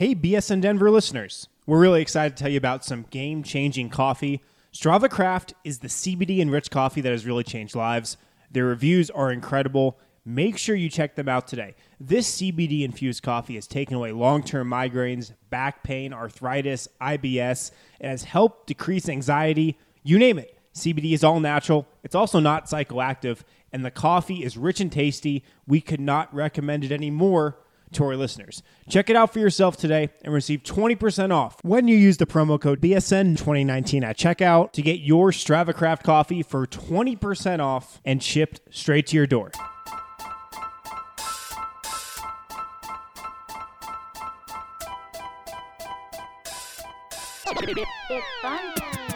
Hey, BSN Denver listeners. We're really excited to tell you about some game-changing coffee. Strava Craft is the CBD-enriched coffee that has really changed lives. Their reviews are incredible. Make sure you check them out today. This CBD-infused coffee has taken away long-term migraines, back pain, arthritis, IBS. It has helped decrease anxiety. You name it. CBD is all natural. It's also not psychoactive. And the coffee is rich and tasty. We could not recommend it anymore to our listeners. Check it out for yourself today and receive 20% off when you use the promo code BSN2019 at checkout to get your Strava Craft coffee for 20% off and shipped straight to your door. It's fun.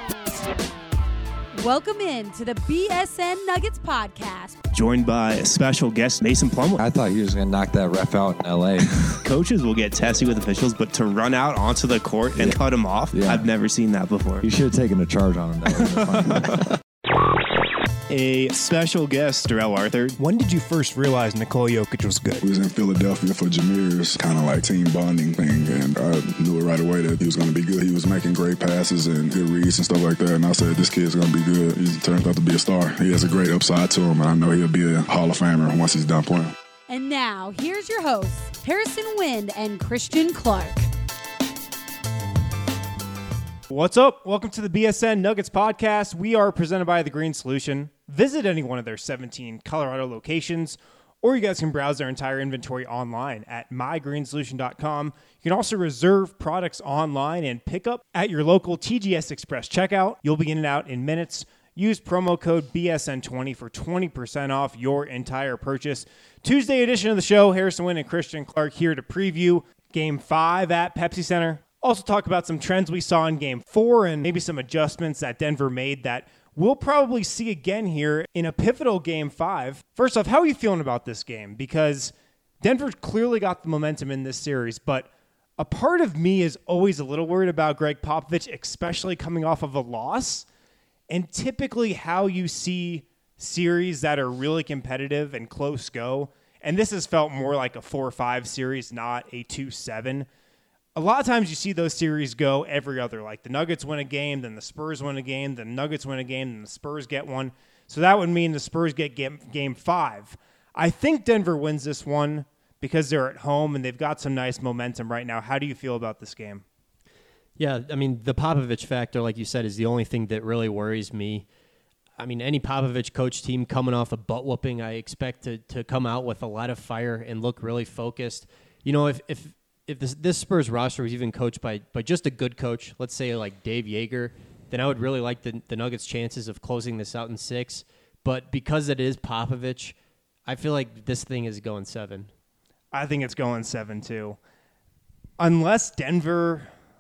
Welcome in to the BSN Nuggets podcast. Joined by a special guest, Mason Plumlee. I thought he was going to knock that ref out in L.A. Coaches will get testy with officials, but to run out onto the court and cut him off, I've never seen that before. You should have taken a charge on him. That would have been funny. A special guest, Darrell Arthur. When did you first realize Nikola Jokic was good? We was in Philadelphia for Jameer's kind of like team bonding thing, and I knew it right away that he was going to be good. He was making great passes and good reads and stuff like that, and I said, this kid's going to be good. He turns out to be a star. He has a great upside to him, and I know he'll be a Hall of Famer once he's done playing. And now, here's your hosts, Harrison Wind and Christian Clark. What's up? Welcome to the BSN Nuggets podcast. We are presented by The Green Solution. Visit any one of their 17 Colorado locations, or you guys can browse their entire inventory online at mygreensolution.com. You can also reserve products online and pick up at your local TGS Express checkout. You'll be in and out in minutes. Use promo code BSN20 for 20% off your entire purchase. Tuesday edition of the show, Harrison Wind and Christian Clark here to preview Game 5 at Pepsi Center. Also talk about some trends we saw in Game 4 and maybe some adjustments that Denver made that we'll probably see again here in a pivotal Game 5. First off, how are you feeling about this game? Because Denver clearly got the momentum in this series, but a part of me is always a little worried about Greg Popovich, especially coming off of a loss. And typically how you see series that are really competitive and close go, and this has felt more like a 4-5 series, not a 2-7. A lot of times you see those series go every other. Like the Nuggets win a game, then the Spurs win a game, then the Nuggets win a game, then the Spurs get one. So that would mean the Spurs get game 5. I think Denver wins this one because they're at home and they've got some nice momentum right now. How do you feel about this game? Yeah, I mean, the Popovich factor, like you said, is the only thing that really worries me. I mean, any Popovich coach team coming off a butt whooping, I expect to come out with a lot of fire and look really focused. You know, if this Spurs roster was even coached by just a good coach, let's say like Dave Yeager, then I would really like the Nuggets' chances of closing this out in 6. But because it is Popovich, I feel like this thing is going 7. I think it's going 7 too. Unless Denver,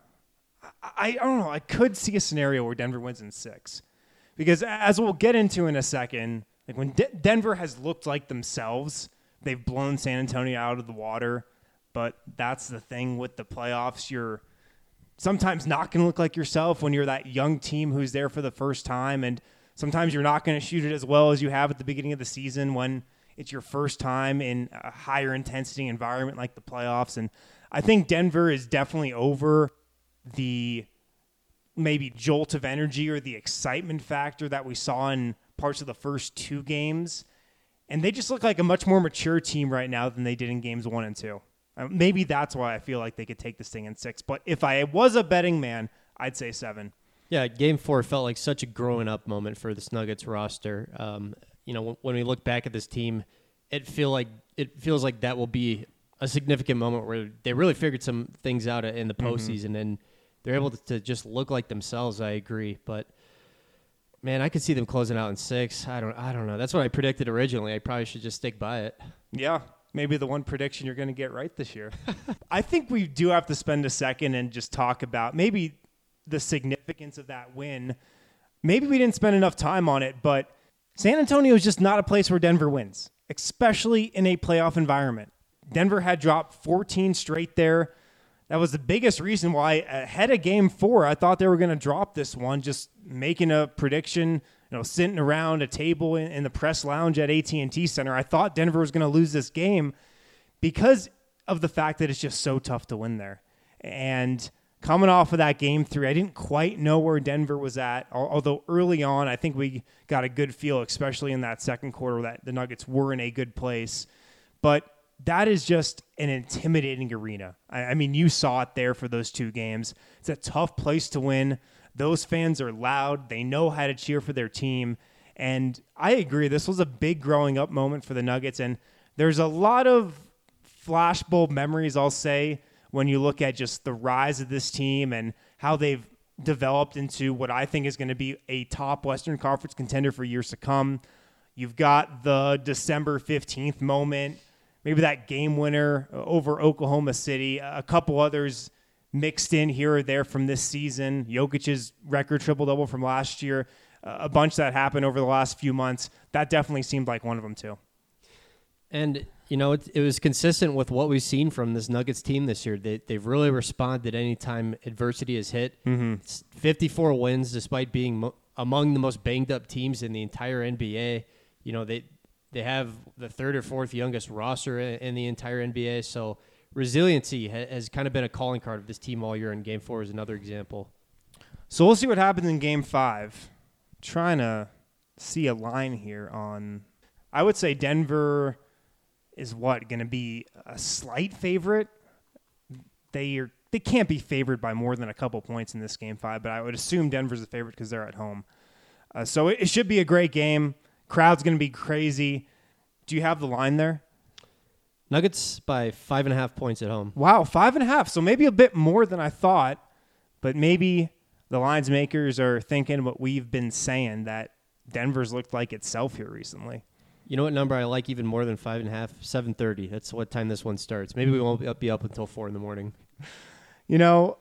I don't know, I could see a scenario where Denver wins in 6. Because as we'll get into in a second, like when Denver has looked like themselves, they've blown San Antonio out of the water. But that's the thing with the playoffs. You're sometimes not going to look like yourself when you're that young team who's there for the first time. And sometimes you're not going to shoot it as well as you have at the beginning of the season when it's your first time in a higher intensity environment like the playoffs. And I think Denver is definitely over the maybe jolt of energy or the excitement factor that we saw in parts of the first 2 games. And they just look like a much more mature team right now than they did in games 1 and 2. Maybe that's why I feel like they could take this thing in 6. But if I was a betting man, I'd say 7. Yeah, Game 4 felt like such a growing up moment for this Nuggets roster. You know, when we look back at this team, it feels like that will be a significant moment where they really figured some things out in the postseason, and they're able to just look like themselves. I agree, but man, I could see them closing out in 6. I don't know. That's what I predicted originally. I probably should just stick by it. Yeah. Maybe the one prediction you're going to get right this year. I think we do have to spend a second and just talk about maybe the significance of that win. Maybe we didn't spend enough time on it, but San Antonio is just not a place where Denver wins, especially in a playoff environment. Denver had dropped 14 straight there. That was the biggest reason why ahead of Game 4, I thought they were going to drop this one, just making a prediction, sitting around a table in the press lounge at AT&T Center. I thought Denver was going to lose this game because of the fact that it's just so tough to win there. And coming off of that game 3, I didn't quite know where Denver was at, although early on I think we got a good feel, especially in that second quarter, that the Nuggets were in a good place. But that is just an intimidating arena. I mean, you saw it there for those 2 games. It's a tough place to win. Those fans are loud. They know how to cheer for their team. And I agree, this was a big growing up moment for the Nuggets. And there's a lot of flashbulb memories, I'll say, when you look at just the rise of this team and how they've developed into what I think is going to be a top Western Conference contender for years to come. You've got the December 15th moment, maybe that game winner over Oklahoma City, a couple others mixed in here or there from this season, Jokic's record triple-double from last year, a bunch that happened over the last few months. That definitely seemed like one of them too. And, you know, it was consistent with what we've seen from this Nuggets team this year. They've really responded anytime adversity has hit. It's 54 wins despite being among the most banged-up teams in the entire NBA. You know, they have the 3rd or 4th youngest roster in the entire NBA, so resiliency has kind of been a calling card of this team all year, and Game 4 is another example. So we'll see what happens in Game 5. Trying to see a line here on, I would say Denver is going to be a slight favorite. They can't be favored by more than a couple points in this Game 5, but I would assume Denver's the favorite because they're at home. So it should be a great game. Crowd's going to be crazy. Do you have the line there? Nuggets by 5.5 points at home. Wow, 5.5. So maybe a bit more than I thought, but maybe the lines makers are thinking what we've been saying, that Denver's looked like itself here recently. You know what number I like even more than 5.5? 7:30. That's what time this one starts. Maybe we won't be up until 4 in the morning. You know,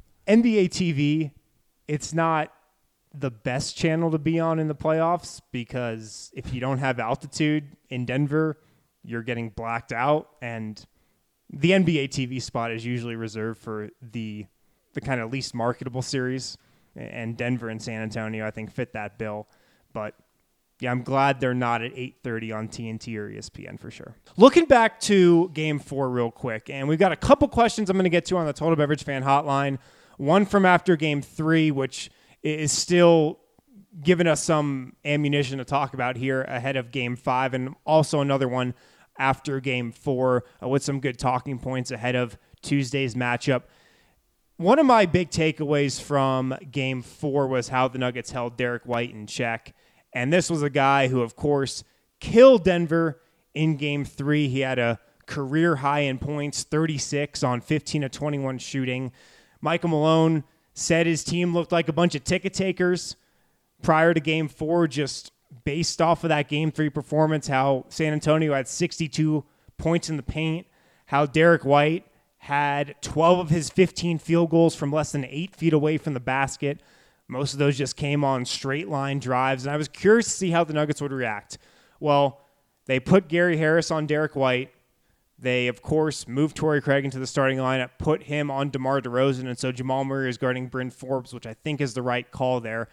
NBA TV, it's not the best channel to be on in the playoffs because if you don't have altitude in Denver, you're getting blacked out, and the NBA TV spot is usually reserved for the kind of least marketable series, and Denver and San Antonio, I think, fit that bill. But yeah, I'm glad they're not at 8:30 on TNT or ESPN for sure. Looking back to Game 4 real quick, and we've got a couple questions I'm going to get to on the Total Beverage Fan Hotline. One from after Game 3, which is still giving us some ammunition to talk about here ahead of Game 5, and also another one after Game 4 with some good talking points ahead of Tuesday's matchup. One of my big takeaways from Game 4 was how the Nuggets held Derek White in check. And this was a guy who, of course, killed Denver in Game 3. He had a career high in points, 36 on 15 of 21 shooting. Michael Malone said his team looked like a bunch of ticket takers prior to Game 4, just based off of that Game 3 performance, how San Antonio had 62 points in the paint, how Derek White had 12 of his 15 field goals from less than 8 feet away from the basket. Most of those just came on straight line drives, and I was curious to see how the Nuggets would react. Well, they put Gary Harris on Derek White. They, of course, moved Torrey Craig into the starting lineup, put him on DeMar DeRozan, and so Jamal Murray is guarding Bryn Forbes, which I think is the right call there.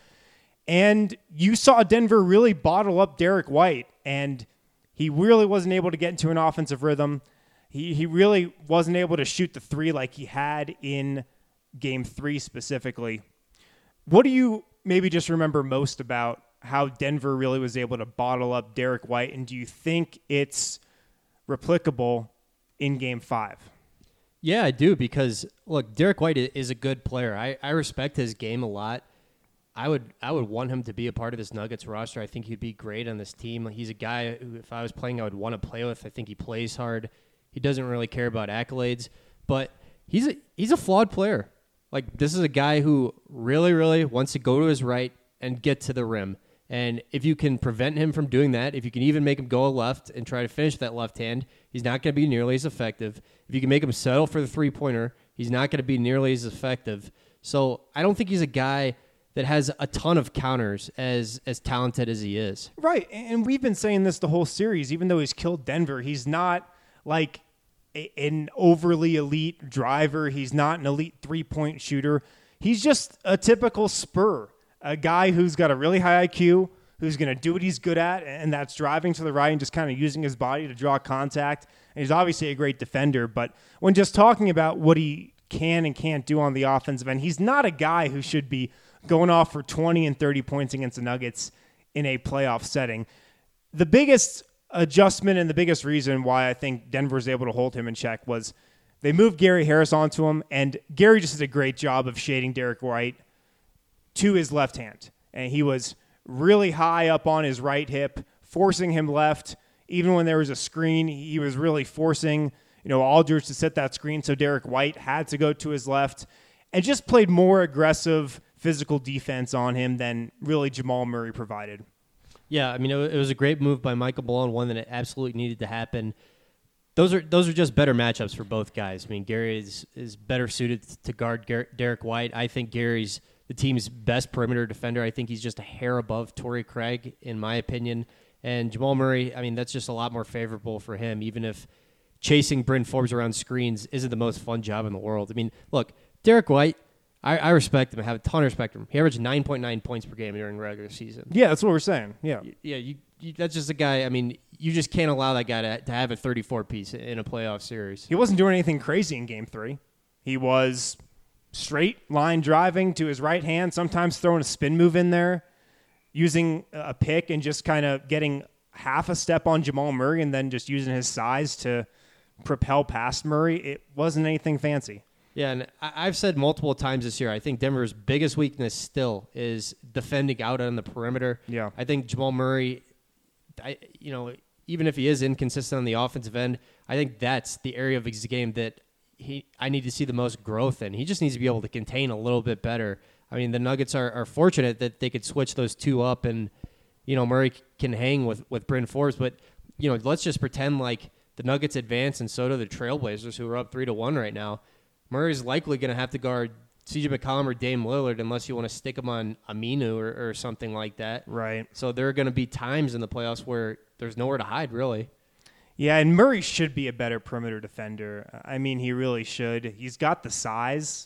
And you saw Denver really bottle up Derek White, and he really wasn't able to get into an offensive rhythm. He really wasn't able to shoot the three like he had in Game 3 specifically. What do you maybe just remember most about how Denver really was able to bottle up Derek White, and do you think it's replicable in Game 5? Yeah, I do, because, look, Derek White is a good player. I respect his game a lot. I would want him to be a part of this Nuggets roster. I think he'd be great on this team. He's a guy who, if I was playing, I would want to play with. I think he plays hard. He doesn't really care about accolades, but he's a flawed player. Like, this is a guy who really, really wants to go to his right and get to the rim. And if you can prevent him from doing that, if you can even make him go left and try to finish that left hand, he's not going to be nearly as effective. If you can make him settle for the three-pointer, he's not going to be nearly as effective. So I don't think he's a guy that has a ton of counters as talented as he is. Right, and we've been saying this the whole series. Even though he's killed Denver, he's not like an overly elite driver. He's not an elite three-point shooter. He's just a typical Spur, a guy who's got a really high IQ, who's going to do what he's good at, and that's driving to the right and just kind of using his body to draw contact. And he's obviously a great defender, but when just talking about what he can and can't do on the offensive end. He's not a guy who should be going off for 20 and 30 points against the Nuggets in a playoff setting. The biggest adjustment and the biggest reason why I think Denver was able to hold him in check was they moved Gary Harris onto him, and Gary just did a great job of shading Derek White to his left hand. And he was really high up on his right hip, forcing him left. Even when there was a screen, he was really forcing, Aldridge to set that screen, so Derek White had to go to his left, and just played more aggressive physical defense on him than really Jamal Murray provided. Yeah, I mean, it was a great move by Michael Malone, one that it absolutely needed to happen. Those are just better matchups for both guys. I mean, Gary is better suited to guard Derek White. I think Gary's the team's best perimeter defender. I think he's just a hair above Torrey Craig, in my opinion. And Jamal Murray, I mean, that's just a lot more favorable for him, even if chasing Bryn Forbes around screens isn't the most fun job in the world. I mean, look, Derek White, I respect him. I have a ton of respect for him. He averaged 9.9 points per game during the regular season. Yeah, that's what we're saying. Yeah. Yeah, that's just a guy, I mean, you just can't allow that guy to have a 34-piece in a playoff series. He wasn't doing anything crazy in Game 3. He was straight line driving to his right hand, sometimes throwing a spin move in there, using a pick and just kind of getting half a step on Jamal Murray and then just using his size to propel past Murray. It wasn't anything fancy. Yeah, and I've said multiple times this year, I think Denver's biggest weakness still is defending out on the perimeter. Yeah. I think Jamal Murray, even if he is inconsistent on the offensive end, I think that's the area of his game that I need to see the most growth in. He just needs to be able to contain a little bit better. I mean, the Nuggets are fortunate that they could switch those two up and, Murray can hang with Bryn Forbes. But, let's just pretend like the Nuggets advance and so do the Trailblazers, who are up 3-1 right now. Murray's likely going to have to guard CJ McCollum or Dame Lillard unless you want to stick him on Aminu or something like that. Right. So there are going to be times in the playoffs where there's nowhere to hide, really. Yeah, and Murray should be a better perimeter defender. I mean, he really should. He's got the size,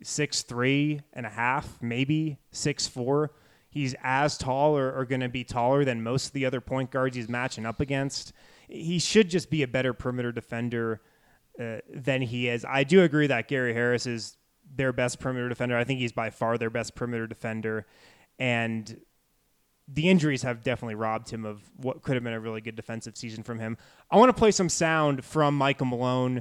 6'3 and a half, maybe 6'4. He's as tall or going to be taller than most of the other point guards he's matching up against. He should just be a better perimeter defender than he is. I do agree that Gary Harris is their best perimeter defender. I think he's by far their best perimeter defender. And the injuries have definitely robbed him of what could have been a really good defensive season from him. I want to play some sound from Michael Malone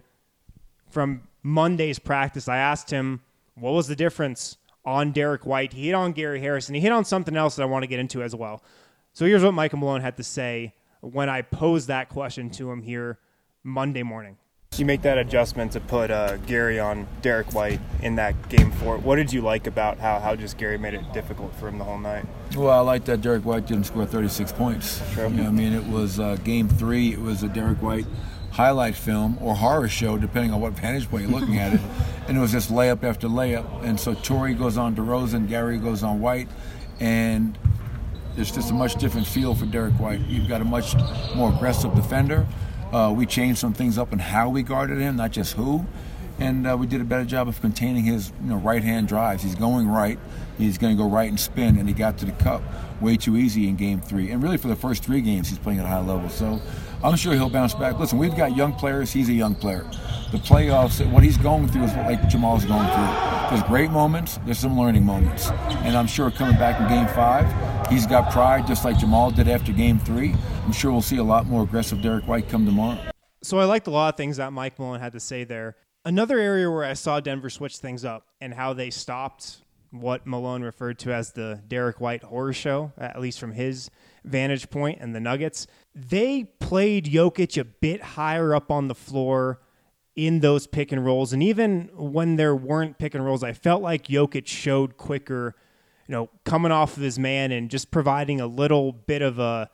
from Monday's practice. I asked him, what was the difference on Derek White? He hit on Gary Harris, and he hit on something else that I want to get into as well. So here's what Michael Malone had to say when I posed that question to him here Monday morning. You make that adjustment to put Gary on Derek White in that Game 4. What did you like about how just Gary made it difficult for him the whole night? Well, I like that Derek White didn't score 36 points. True. It was Game 3. It was a Derek White highlight film or horror show, depending on what vantage point you're looking at it. And it was just layup after layup. And so Torrey goes on DeRozan, Gary goes on White, and there's just a much different feel for Derek White. You've got a much more aggressive defender. We changed some things up in how we guarded him, not just who. And we did a better job of containing his right-hand drives. He's going right. He's going to go right and spin, and he got to the cup way too easy in Game 3. And really for the first 3 games, he's playing at a high level. So I'm sure he'll bounce back. Listen, we've got young players. He's a young player. The playoffs, what he's going through is what like Jamal's going through. There's great moments. There's some learning moments. And I'm sure coming back in Game 5, he's got pride just like Jamal did after Game 3. I'm sure we'll see a lot more aggressive Derek White come tomorrow. So I liked a lot of things that Mike Malone had to say there. Another area where I saw Denver switch things up and how they stopped what Malone referred to as the Derek White horror show, at least from his vantage point, and the Nuggets. They played Jokic a bit higher up on the floor in those pick and rolls. And even when there weren't pick and rolls, I felt like Jokic showed quicker, coming off of his man and just providing a little bit of a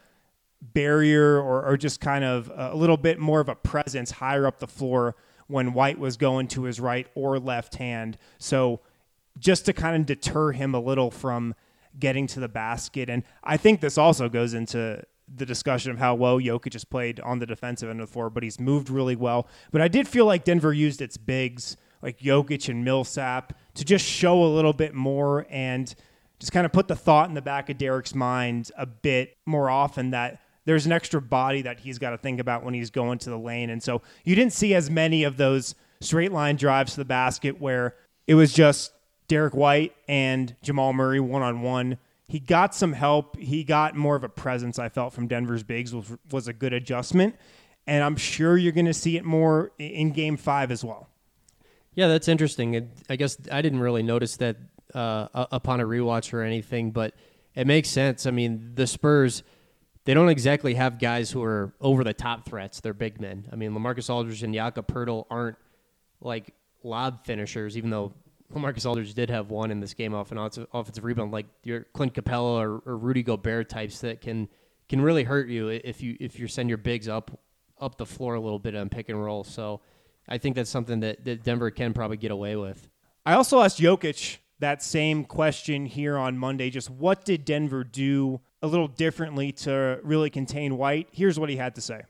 barrier or just kind of a little bit more of a presence higher up the floor when White was going to his right or left hand. So just to kind of deter him a little from getting to the basket. And I think this also goes into the discussion of how well Jokic has played on the defensive end of the floor, but he's moved really well. But I did feel like Denver used its bigs, like Jokic and Millsap, to just show a little bit more and just kind of put the thought in the back of Derek's mind a bit more often that there's an extra body that he's got to think about when he's going to the lane. And so you didn't see as many of those straight line drives to the basket where it was just Derek White and Jamal Murray one-on-one. He got some help. He got more of a presence, I felt, from Denver's bigs, which was a good adjustment. And I'm sure you're going to see it more in Game 5 as well. Yeah, that's interesting. I guess I didn't really notice that upon a rewatch or anything, but it makes sense. I mean, the Spurs, they don't exactly have guys who are over-the-top threats. They're big men. I mean, LaMarcus Aldridge and Jakob Poeltl aren't like lob finishers, even though LaMarcus Aldridge did have one in this game off an offensive rebound, like your Clint Capella or Rudy Gobert types that can really hurt you if you send your bigs up the floor a little bit on pick and roll. So I think that's something that Denver can probably get away with. I also asked Jokic that same question here on Monday. Just what did Denver do a little differently to really contain White? Here's what he had to say.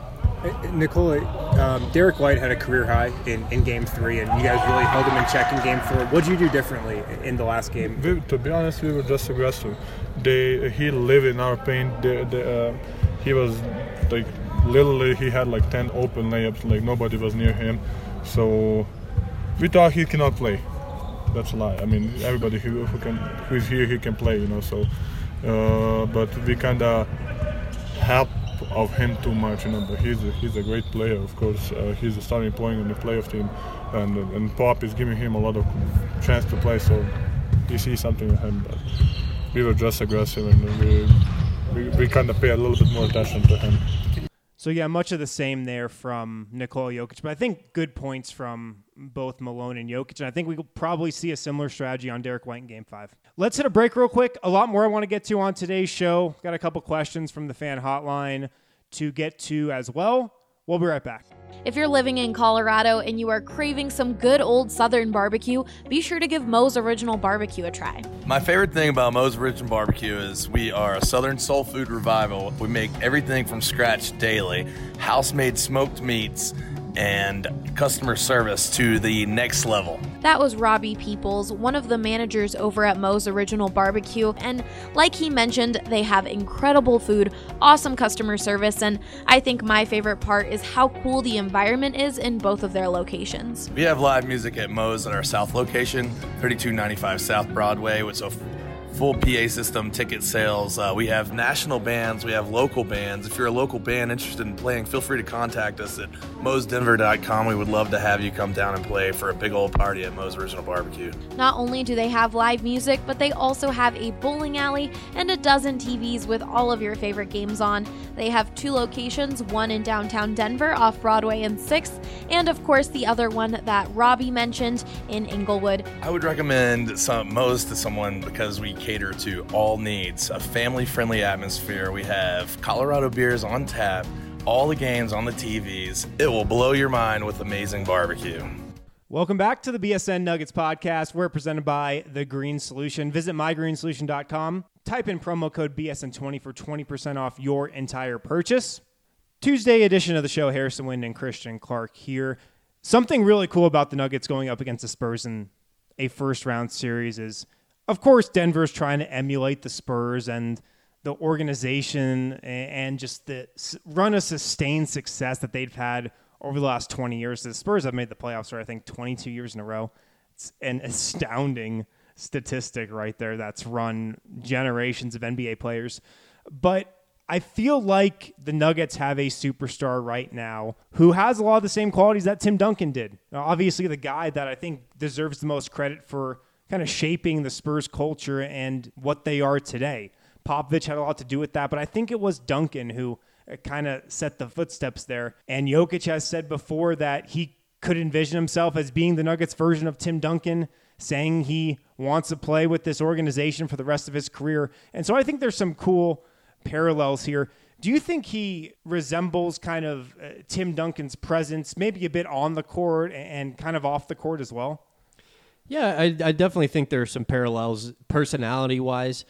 Nikola, Derek White had a career high in Game 3, and you guys really held him in check in Game 4. What did you do differently in the last game? To be honest, we were just aggressive. He lived in our paint. He was like, literally, he had like 10 open layups, like nobody was near him. So we thought he cannot play. That's a lie. I mean, everybody who's here, he can play, So, but we kind of helped of him too much, But he's a great player, of course. He's a starting point on the playoff team, and Pop is giving him a lot of chance to play. So you see something in him. But we were just aggressive, and we kind of pay a little bit more attention to him. So, yeah, much of the same there from Nikola Jokic, but I think good points from both Malone and Jokic, and I think we will probably see a similar strategy on Derek White in Game 5. Let's hit a break real quick. A lot more I want to get to on today's show. Got a couple questions from the fan hotline to get to as well. We'll be right back. If you're living in Colorado and you are craving some good old Southern barbecue, be sure to give Moe's Original Barbecue a try. My favorite thing about Moe's Original Barbecue is we are a Southern soul food revival. We make everything from scratch daily, house-made smoked meats, and customer service to the next level. That was Robbie Peoples, one of the managers over at Moe's Original Barbecue, and like he mentioned, they have incredible food, awesome customer service, and I think my favorite part is how cool the environment is in both of their locations. We have live music at Moe's at our South location, 3295 South Broadway, with a full PA system, ticket sales. We have national bands, we have local bands. If you're a local band interested in playing, feel free to contact us at moesdenver.com. We would love to have you come down and play for a big old party at Moe's Original Barbecue. Not only do they have live music, but they also have a bowling alley and a dozen TVs with all of your favorite games on. They have 2 locations, one in downtown Denver off Broadway and 6th, and of course the other one that Robbie mentioned in Inglewood. I would recommend Moe's to someone because we cater to all needs, a family-friendly atmosphere. We have Colorado beers on tap, all the games on the TVs. It will blow your mind with amazing barbecue. Welcome back to the BSN Nuggets podcast. We're presented by The Green Solution. Visit mygreensolution.com. Type in promo code BSN20 for 20% off your entire purchase. Tuesday edition of the show, Harrison Wind and Christian Clark here. Something really cool about the Nuggets going up against the Spurs in a first-round series is, of course, Denver's trying to emulate the Spurs and the organization and just the run of sustained success that they've had over the last 20 years. The Spurs have made the playoffs for, I think, 22 years in a row. It's an astounding statistic right there that's run generations of NBA players. But I feel like the Nuggets have a superstar right now who has a lot of the same qualities that Tim Duncan did. Now, obviously, the guy that I think deserves the most credit for kind of shaping the Spurs culture and what they are today. Popovich had a lot to do with that, but I think it was Duncan who kind of set the footsteps there. And Jokic has said before that he could envision himself as being the Nuggets version of Tim Duncan, saying he wants to play with this organization for the rest of his career. And so I think there's some cool parallels here. Do you think he resembles kind of Tim Duncan's presence, maybe a bit on the court and kind of off the court as well? Yeah, I definitely think there are some parallels personality-wise.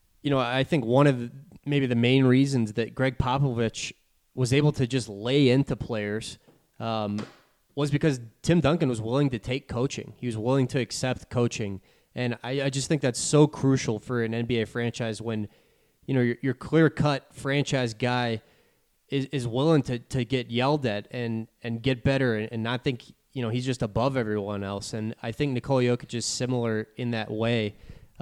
I think one of maybe the main reasons that Greg Popovich was able to just lay into players was because Tim Duncan was willing to take coaching. He was willing to accept coaching. And I just think that's so crucial for an NBA franchise when, your clear-cut franchise guy is willing to get yelled at and get better and not think he's just above everyone else. And I think Nikola Jokic is similar in that way.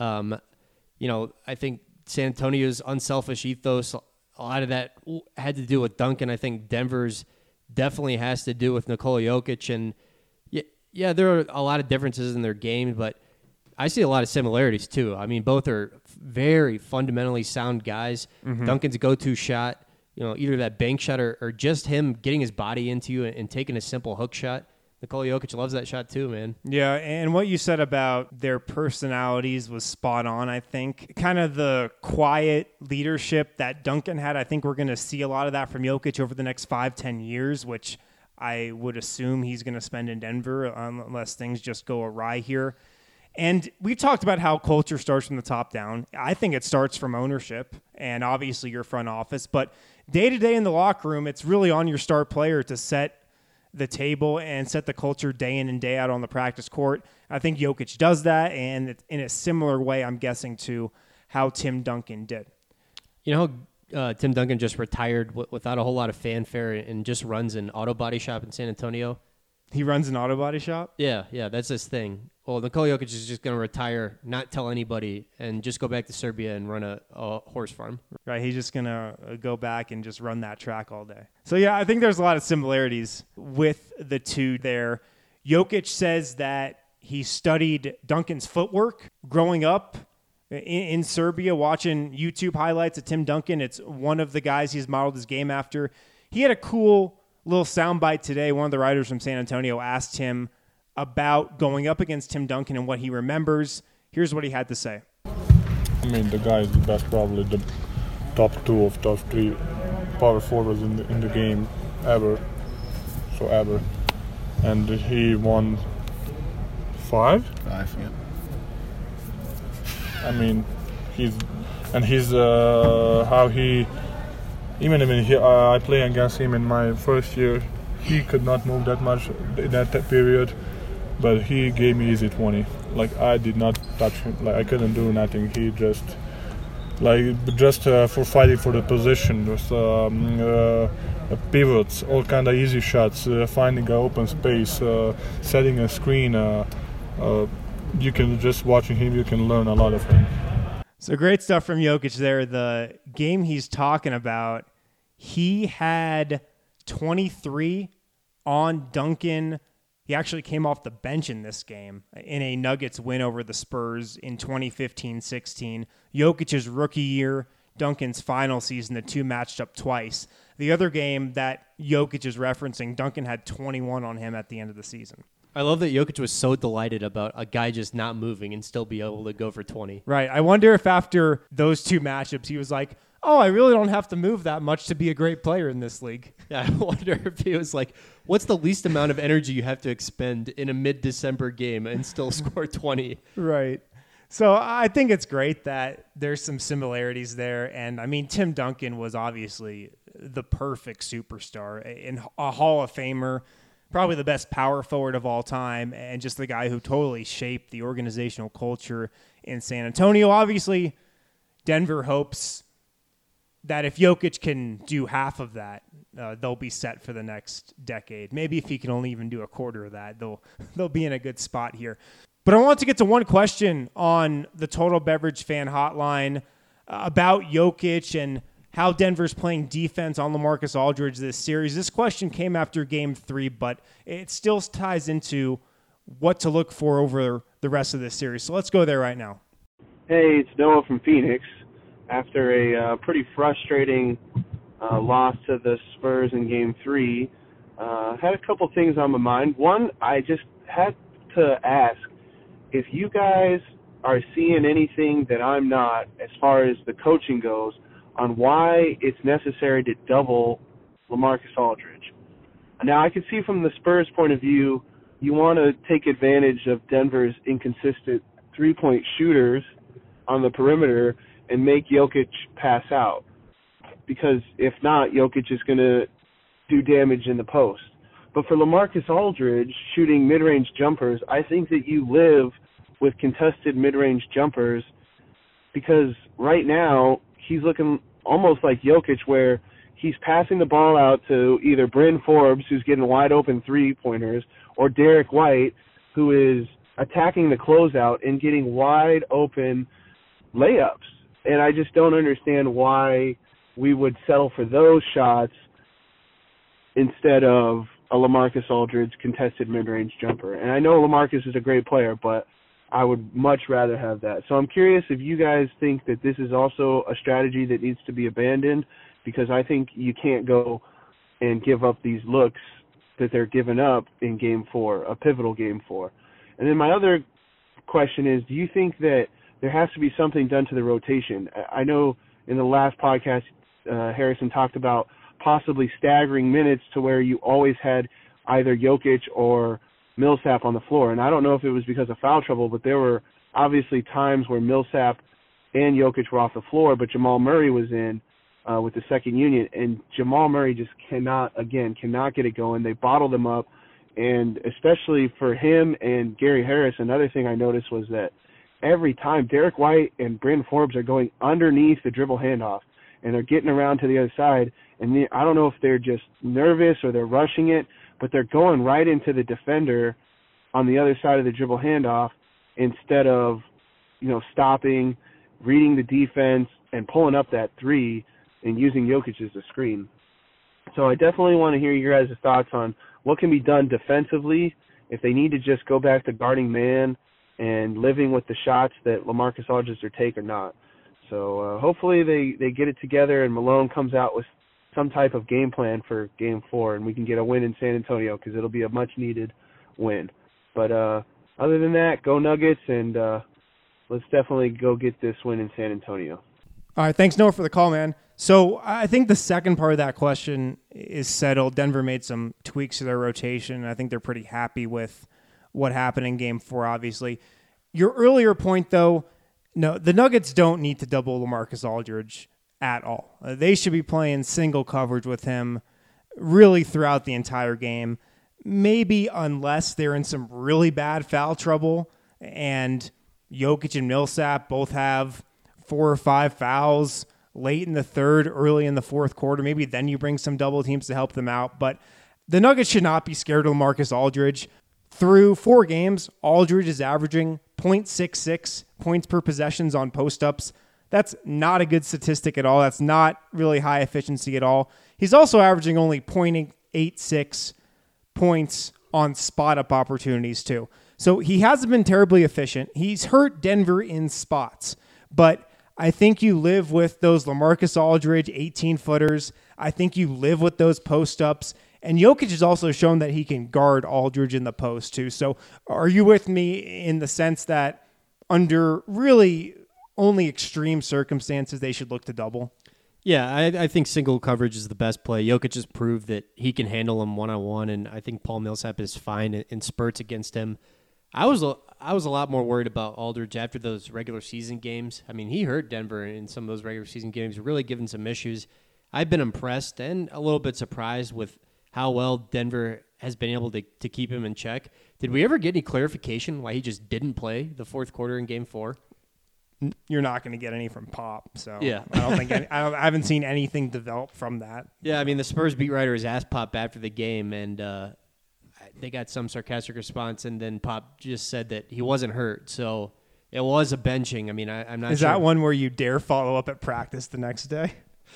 I think San Antonio's unselfish ethos, a lot of that had to do with Duncan. I think Denver's definitely has to do with Nikola Jokic. And yeah, there are a lot of differences in their game, but I see a lot of similarities too. I mean, both are very fundamentally sound guys. Mm-hmm. Duncan's go-to shot, either that bank shot or just him getting his body into you and taking a simple hook shot. Nikola Jokic loves that shot too, man. Yeah, and what you said about their personalities was spot on, I think. Kind of the quiet leadership that Duncan had, I think we're going to see a lot of that from Jokic over the next 5-10 years, which I would assume he's going to spend in Denver unless things just go awry here. And we've talked about how culture starts from the top down. I think it starts from ownership and obviously your front office. But day-to-day in the locker room, it's really on your star player to set the table and set the culture day in and day out on the practice court. I think Jokic does that, and in a similar way, I'm guessing, to how Tim Duncan did. Tim Duncan just retired without a whole lot of fanfare and just runs an auto body shop in San Antonio. He runs an auto body shop? Yeah, that's his thing. Well, Nikola Jokic is just going to retire, not tell anybody, and just go back to Serbia and run a horse farm. Right, he's just going to go back and just run that track all day. So, yeah, I think there's a lot of similarities with the two there. Jokic says that he studied Duncan's footwork growing up in Serbia, watching YouTube highlights of Tim Duncan. It's one of the guys he's modeled his game after. He had a cool little soundbite today. One of the writers from San Antonio asked him about going up against Tim Duncan and what he remembers. Here's what he had to say. I mean, the guy is the best, probably the top 2 of top 3 power forwards in the game ever. And he won 5? 5, yeah. I mean, how he, even when I play against him in my first year, he could not move that much in that period, but he gave me easy 20. Like, I did not touch him. Like, I couldn't do nothing. He just for fighting for the position, just pivots, all kind of easy shots, finding an open space, setting a screen. You can just watching him, you can learn a lot of him. So great stuff from Jokic there. The game he's talking about, he had 23 on Duncan. He actually came off the bench in this game in a Nuggets win over the Spurs in 2015-16. Jokic's rookie year, Duncan's final season, the two matched up twice. The other game that Jokic is referencing, Duncan had 21 on him at the end of the season. I love that Jokic was so delighted about a guy just not moving and still be able to go for 20. Right. I wonder if after those two matchups, he was like, oh, I really don't have to move that much to be a great player in this league. Yeah, I wonder if he was like, what's the least amount of energy you have to expend in a mid-December game and still score 20? Right. So I think it's great that there's some similarities there. And, I mean, Tim Duncan was obviously the perfect superstar, and a Hall of Famer, probably the best power forward of all time, and just the guy who totally shaped the organizational culture in San Antonio. Obviously, Denver hopes that if Jokic can do half of that, they'll be set for the next decade. Maybe if he can only even do a quarter of that, they'll be in a good spot here. But I want to get to one question on the Total Beverage Fan Hotline about Jokic and how Denver's playing defense on LaMarcus Aldridge this series. This question came after Game 3, but it still ties into what to look for over the rest of this series. So let's go there right now. Hey, it's Noah from Phoenix. After a pretty frustrating loss to the Spurs in Game 3, had a couple things on my mind. One, I just had to ask if you guys are seeing anything that I'm not as far as the coaching goes on why it's necessary to double LaMarcus Aldridge. Now, I can see from the Spurs' point of view, you want to take advantage of Denver's inconsistent three-point shooters on the perimeter and make Jokic pass out. Because if not, Jokic is going to do damage in the post. But for LaMarcus Aldridge, shooting mid-range jumpers, I think that you live with contested mid-range jumpers because right now he's looking almost like Jokic where he's passing the ball out to either Bryn Forbes, who's getting wide open three-pointers, or Derek White, who is attacking the closeout and getting wide open layups. And I just don't understand why we would settle for those shots instead of a LaMarcus Aldridge contested mid-range jumper. And I know LaMarcus is a great player, but I would much rather have that. So I'm curious if you guys think that this is also a strategy that needs to be abandoned, because I think you can't go and give up these looks that they're giving up in Game 4, a pivotal Game 4. And then my other question is, do you think that there has to be something done to the rotation? I know in the last podcast, Harrison talked about possibly staggering minutes to where you always had either Jokic or Millsap on the floor. And I don't know if it was because of foul trouble, but there were obviously times where Millsap and Jokic were off the floor, but Jamal Murray was in with the second unit, and Jamal Murray just cannot get it going. They bottled him up, and especially for him and Gary Harris, another thing I noticed was that every time Derek White and Bryn Forbes are going underneath the dribble handoff, and they're getting around to the other side, and I don't know if they're just nervous or they're rushing it, but they're going right into the defender on the other side of the dribble handoff instead of, stopping, reading the defense, and pulling up that three and using Jokic as a screen. So I definitely want to hear your guys' thoughts on what can be done defensively, if they need to just go back to guarding man and living with the shots that LaMarcus Aldridge are take or not. So hopefully they get it together and Malone comes out with some type of game plan for Game 4 and we can get a win in San Antonio, because it'll be a much-needed win. But other than that, go Nuggets, and let's definitely go get this win in San Antonio. All right, thanks, Noah, for the call, man. So I think the second part of that question is settled. Denver made some tweaks to their rotation. I think they're pretty happy with what happened in Game 4, obviously. Your earlier point, though, no, the Nuggets don't need to double LaMarcus Aldridge at all. They should be playing single coverage with him really throughout the entire game, maybe unless they're in some really bad foul trouble and Jokic and Millsap both have 4 or 5 fouls late in the third, early in the fourth quarter. Maybe then you bring some double teams to help them out. But the Nuggets should not be scared of LaMarcus Aldridge. Through 4 games, Aldridge is averaging 0.66 points per possessions on post-ups. That's not a good statistic at all. That's not really high efficiency at all. He's also averaging only 0.86 points on spot-up opportunities, too. So he hasn't been terribly efficient. He's hurt Denver in spots. But I think you live with those LaMarcus Aldridge 18-footers. I think you live with those post-ups. And Jokic has also shown that he can guard Aldridge in the post, too. So are you with me in the sense that under really only extreme circumstances, they should look to double? Yeah, I think single coverage is the best play. Jokic has proved that he can handle him one-on-one, and I think Paul Millsap is fine in spurts against him. I was a lot more worried about Aldridge after those regular season games. I mean, he hurt Denver in some of those regular season games, really given some issues. I've been impressed and a little bit surprised with how well Denver has been able to keep him in check. Did we ever get any clarification why he just didn't play the fourth quarter in Game 4? You're not going to get any from Pop, so yeah. I don't think I haven't seen anything develop from that. Yeah, I mean, the Spurs beat writer has asked Pop after the game, and they got some sarcastic response, and then Pop just said that he wasn't hurt, so it was a benching. I mean, I'm not sure. Is that one where you dare follow up at practice the next day?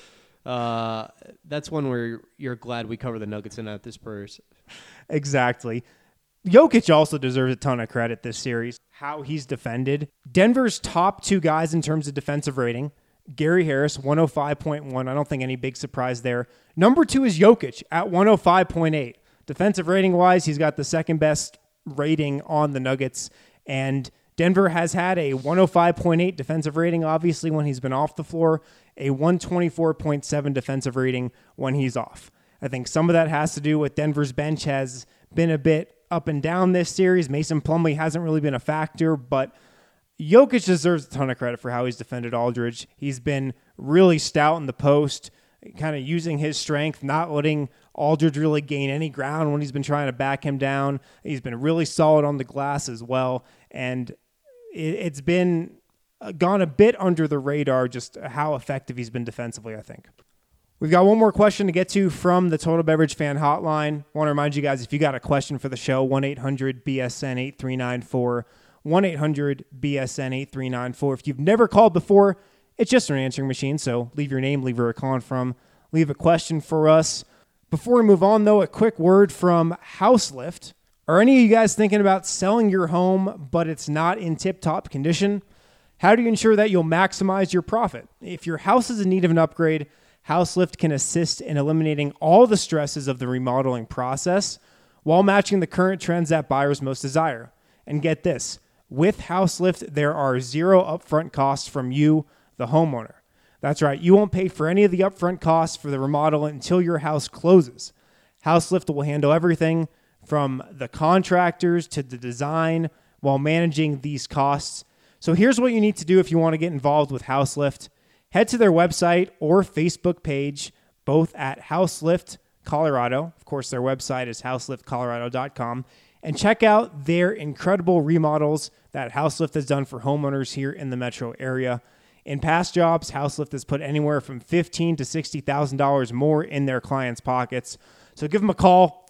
That's one where you're glad we cover the Nuggets and not the Spurs. Exactly. Jokic also deserves a ton of credit this series. How he's defended. Denver's top 2 guys in terms of defensive rating. Gary Harris, 105.1. I don't think any big surprise there. Number 2 is Jokic at 105.8. Defensive rating-wise, he's got the second best rating on the Nuggets. And Denver has had a 105.8 defensive rating, obviously, when he's been off the floor. A 124.7 defensive rating when he's off. I think some of that has to do with Denver's bench has been a bit up and down this series. Mason Plumlee hasn't really been a factor, but Jokic deserves a ton of credit for how he's defended Aldridge. He's been really stout in the post, kind of using his strength, not letting Aldridge really gain any ground when he's been trying to back him down. He's been really solid on the glass as well, and it's been gone a bit under the radar just how effective he's been defensively, I think. We've got one more question to get to from the Total Beverage Fan Hotline. I want to remind you guys, if you got a question for the show, 1-800-BSN-8394, 1-800-BSN-8394. If you've never called before, it's just an answering machine, so leave your name, leave where you're calling from, leave a question for us. Before we move on, though, a quick word from Houselift. Are any of you guys thinking about selling your home, but it's not in tip-top condition? How do you ensure that you'll maximize your profit? If your house is in need of an upgrade, Houselift can assist in eliminating all the stresses of the remodeling process while matching the current trends that buyers most desire. And get this, with Houselift, there are zero upfront costs from you, the homeowner. That's right, you won't pay for any of the upfront costs for the remodel until your house closes. Houselift will handle everything from the contractors to the design while managing these costs. So here's what you need to do if you want to get involved with Houselift. Head to their website or Facebook page, both at Houselift Colorado. Of course, their website is houseliftcolorado.com. And check out their incredible remodels that Houselift has done for homeowners here in the metro area. In past jobs, Houselift has put anywhere from $15,000 to $60,000 more in their clients' pockets. So give them a call,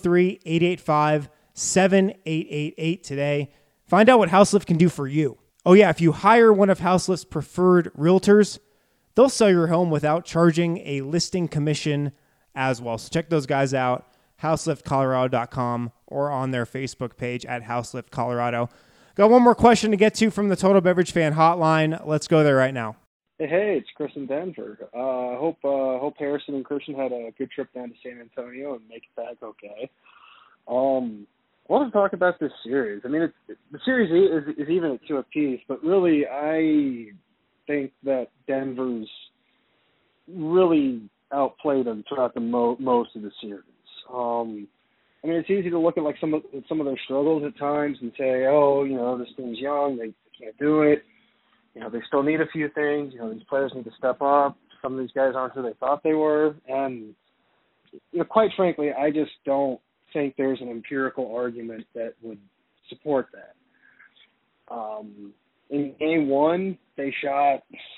303-885-7888 today. Find out what Houselift can do for you. Oh yeah, if you hire one of Houselift's preferred realtors, they'll sell your home without charging a listing commission as well. So check those guys out, houseliftcolorado.com, or on their Facebook page at Houselift Colorado. Got one more question to get to from the Total Beverage Fan Hotline. Let's go there right now. Hey, it's Chris in Denver. Hope Harrison and Christian had a good trip down to San Antonio and make it back okay. I want to talk about this series. I mean, the series is even at 2 apiece, but really I think that Denver's really outplayed them throughout the most of the series. I mean, it's easy to look at like some of their struggles at times and say, oh, this team's young, they can't do it. They still need a few things. These players need to step up. Some of these guys aren't who they thought they were. And, quite frankly, I just don't think there's an empirical argument that would support that. In game one, they shot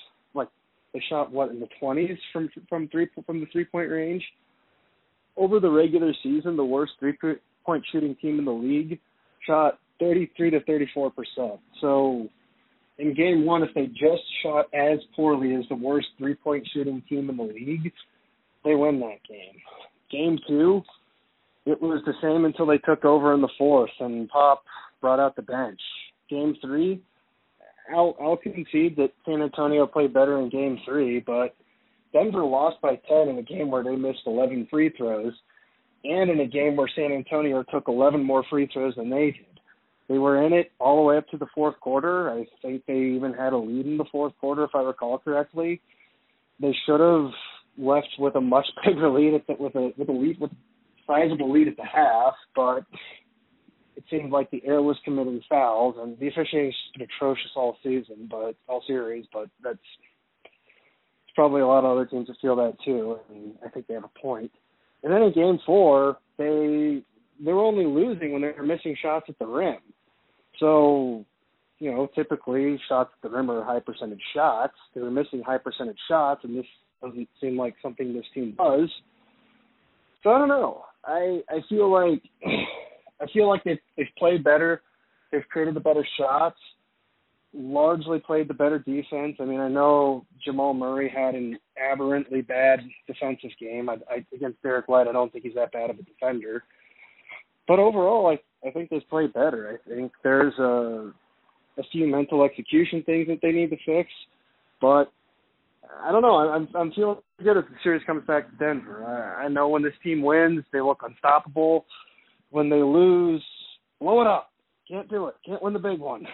in the 20s from the 3-point range. Over the regular season, the worst 3-point shooting team in the league shot 33 to 34%. So in game one, if they just shot as poorly as the worst 3-point shooting team in the league, they win that game. Game two, it was the same until they took over in the fourth and Pop brought out the bench. Game three, I'll concede that San Antonio played better in game three, but Denver lost by 10 in a game where they missed 11 free throws and in a game where San Antonio took 11 more free throws than they did. They were in it all the way up to the fourth quarter. I think they even had a lead in the fourth quarter, if I recall correctly. They should have left with a much bigger lead with a sizable lead at the half, but it seemed like the air was committing fouls, and the officiating has been atrocious all series, but that's probably a lot of other teams that feel that too, and I think they have a point. And then in game four, they were only losing when they were missing shots at the rim. So, typically shots at the rim are high percentage shots. They were missing high percentage shots, and this doesn't seem like something this team does. So I don't know. I feel like they've played better. They've created the better shots. Largely played the better defense. I mean, I know Jamal Murray had an aberrantly bad defensive game. Against Derek White, I don't think he's that bad of a defender. But overall, I think they've played better. I think there's a few mental execution things that they need to fix. But I don't know. I'm feeling good as the series comes back to Denver. I know when this team wins, they look unstoppable. When they lose, blow it up. Can't do it. Can't win the big one.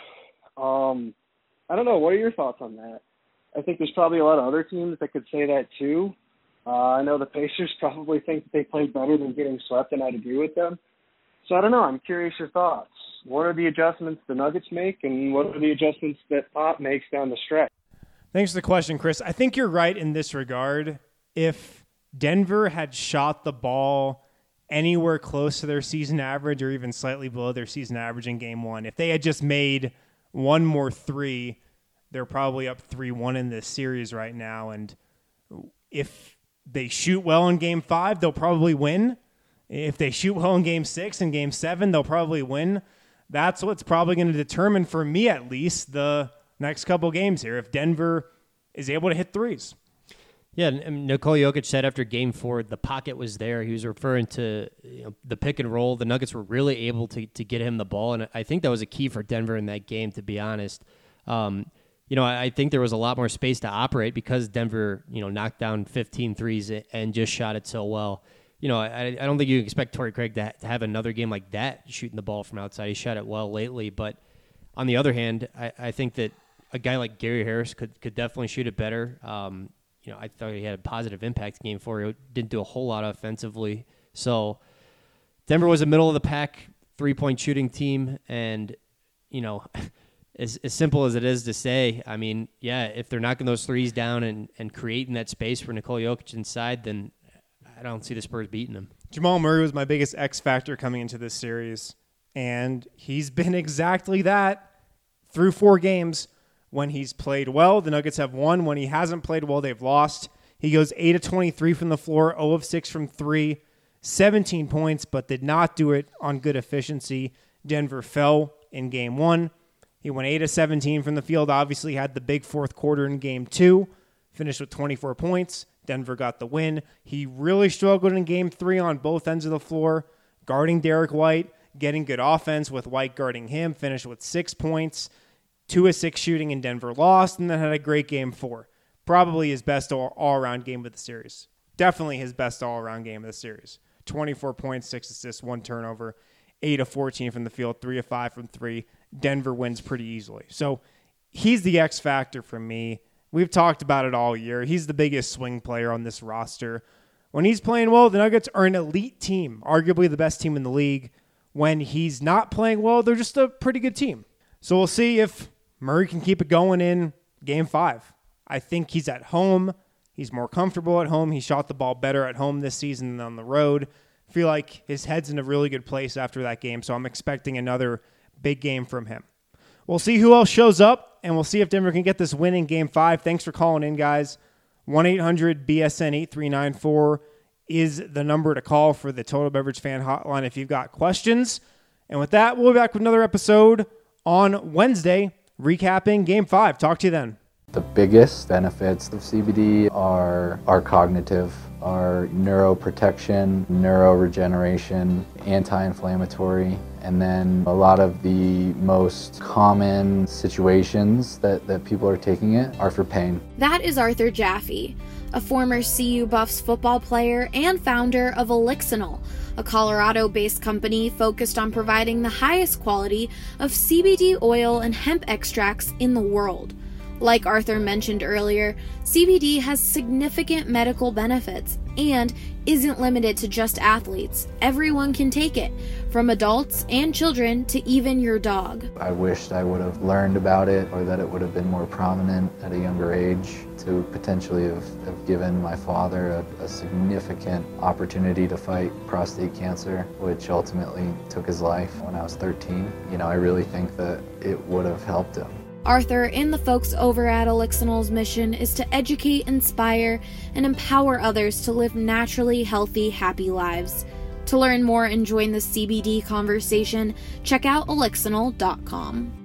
I don't know. What are your thoughts on that? I think there's probably a lot of other teams that could say that too. I know the Pacers probably think that they played better than getting swept, and I'd agree with them. So I don't know. I'm curious your thoughts. What are the adjustments the Nuggets make, and what are the adjustments that Pop makes down the stretch? Thanks for the question, Chris. I think you're right in this regard. If Denver had shot the ball anywhere close to their season average or even slightly below their season average in game one, if they had just made one more three, they're probably up 3-1 in this series right now. And if they shoot well in Game 5, they'll probably win. If they shoot well in Game 6 and Game 7, they'll probably win. That's what's probably going to determine, for me at least, the next couple games here, if Denver is able to hit threes. Yeah, and Nikola Jokic said after Game 4, the pocket was there. He was referring to the pick and roll. The Nuggets were really able to get him the ball, and I think that was a key for Denver in that game, to be honest. I think there was a lot more space to operate because Denver, knocked down 15 threes and just shot it so well. I don't think you expect Torrey Craig to have another game like that, shooting the ball from outside. He shot it well lately, but on the other hand, I think that a guy like Gary Harris could definitely shoot it better. I thought he had a positive impact in Game 4. He didn't do a whole lot offensively. So Denver was a middle-of-the-pack three-point shooting team, and, as simple as it is to say, I mean, yeah, if they're knocking those threes down and creating that space for Nikola Jokic inside, then I don't see the Spurs beating them. Jamal Murray was my biggest X factor coming into this series, and he's been exactly that through 4 games. When he's played well, the Nuggets have won. When he hasn't played well, they've lost. He goes 8 of 23 from the floor, 0 of 6 from 3, 17 points, but did not do it on good efficiency. Denver fell in Game 1. He went 8 of 17 from the field, obviously had the big fourth quarter in Game 2, finished with 24 points. Denver got the win. He really struggled in Game 3 on both ends of the floor, guarding Derek White, getting good offense with White guarding him, finished with 6 points, 2 of 6 shooting, and Denver lost, and then had a great Game 4. Probably his best all-around game of the series. Definitely his best all-around game of the series. 24 points, 6 assists, 1 turnover, 8 of 14 from the field, 3 of 5 from 3. Denver wins pretty easily. So he's the X factor for me. We've talked about it all year. He's the biggest swing player on this roster. When he's playing well, the Nuggets are an elite team, arguably the best team in the league. When he's not playing well, they're just a pretty good team. So we'll see if Murray can keep it going in Game 5. I think he's at home. He's more comfortable at home. He shot the ball better at home this season than on the road. I feel like his head's in a really good place after that game, so I'm expecting another big game from him. We'll see who else shows up, and we'll see if Denver can get this win in Game 5. Thanks for calling in, guys. 1-800-BSN-8394 is the number to call for the Total Beverage Fan Hotline if you've got questions. And with that, we'll be back with another episode on Wednesday, recapping Game 5. Talk to you then. The biggest benefits of CBD are cognitive, are neuroprotection, neuroregeneration, anti-inflammatory, and then a lot of the most common situations that people are taking it are for pain. That is Arthur Jaffe, a former CU Buffs football player and founder of Elixinol, a Colorado-based company focused on providing the highest quality of CBD oil and hemp extracts in the world. Like Arthur mentioned earlier, CBD has significant medical benefits and isn't limited to just athletes. Everyone can take it, from adults and children to even your dog. I wished I would have learned about it, or that it would have been more prominent at a younger age, to potentially have given my father a significant opportunity to fight prostate cancer, which ultimately took his life when I was 13. I really think that it would have helped him. Arthur and the folks over at Elixinol's mission is to educate, inspire, and empower others to live naturally healthy, happy lives. To learn more and join the CBD conversation, check out Elixinol.com.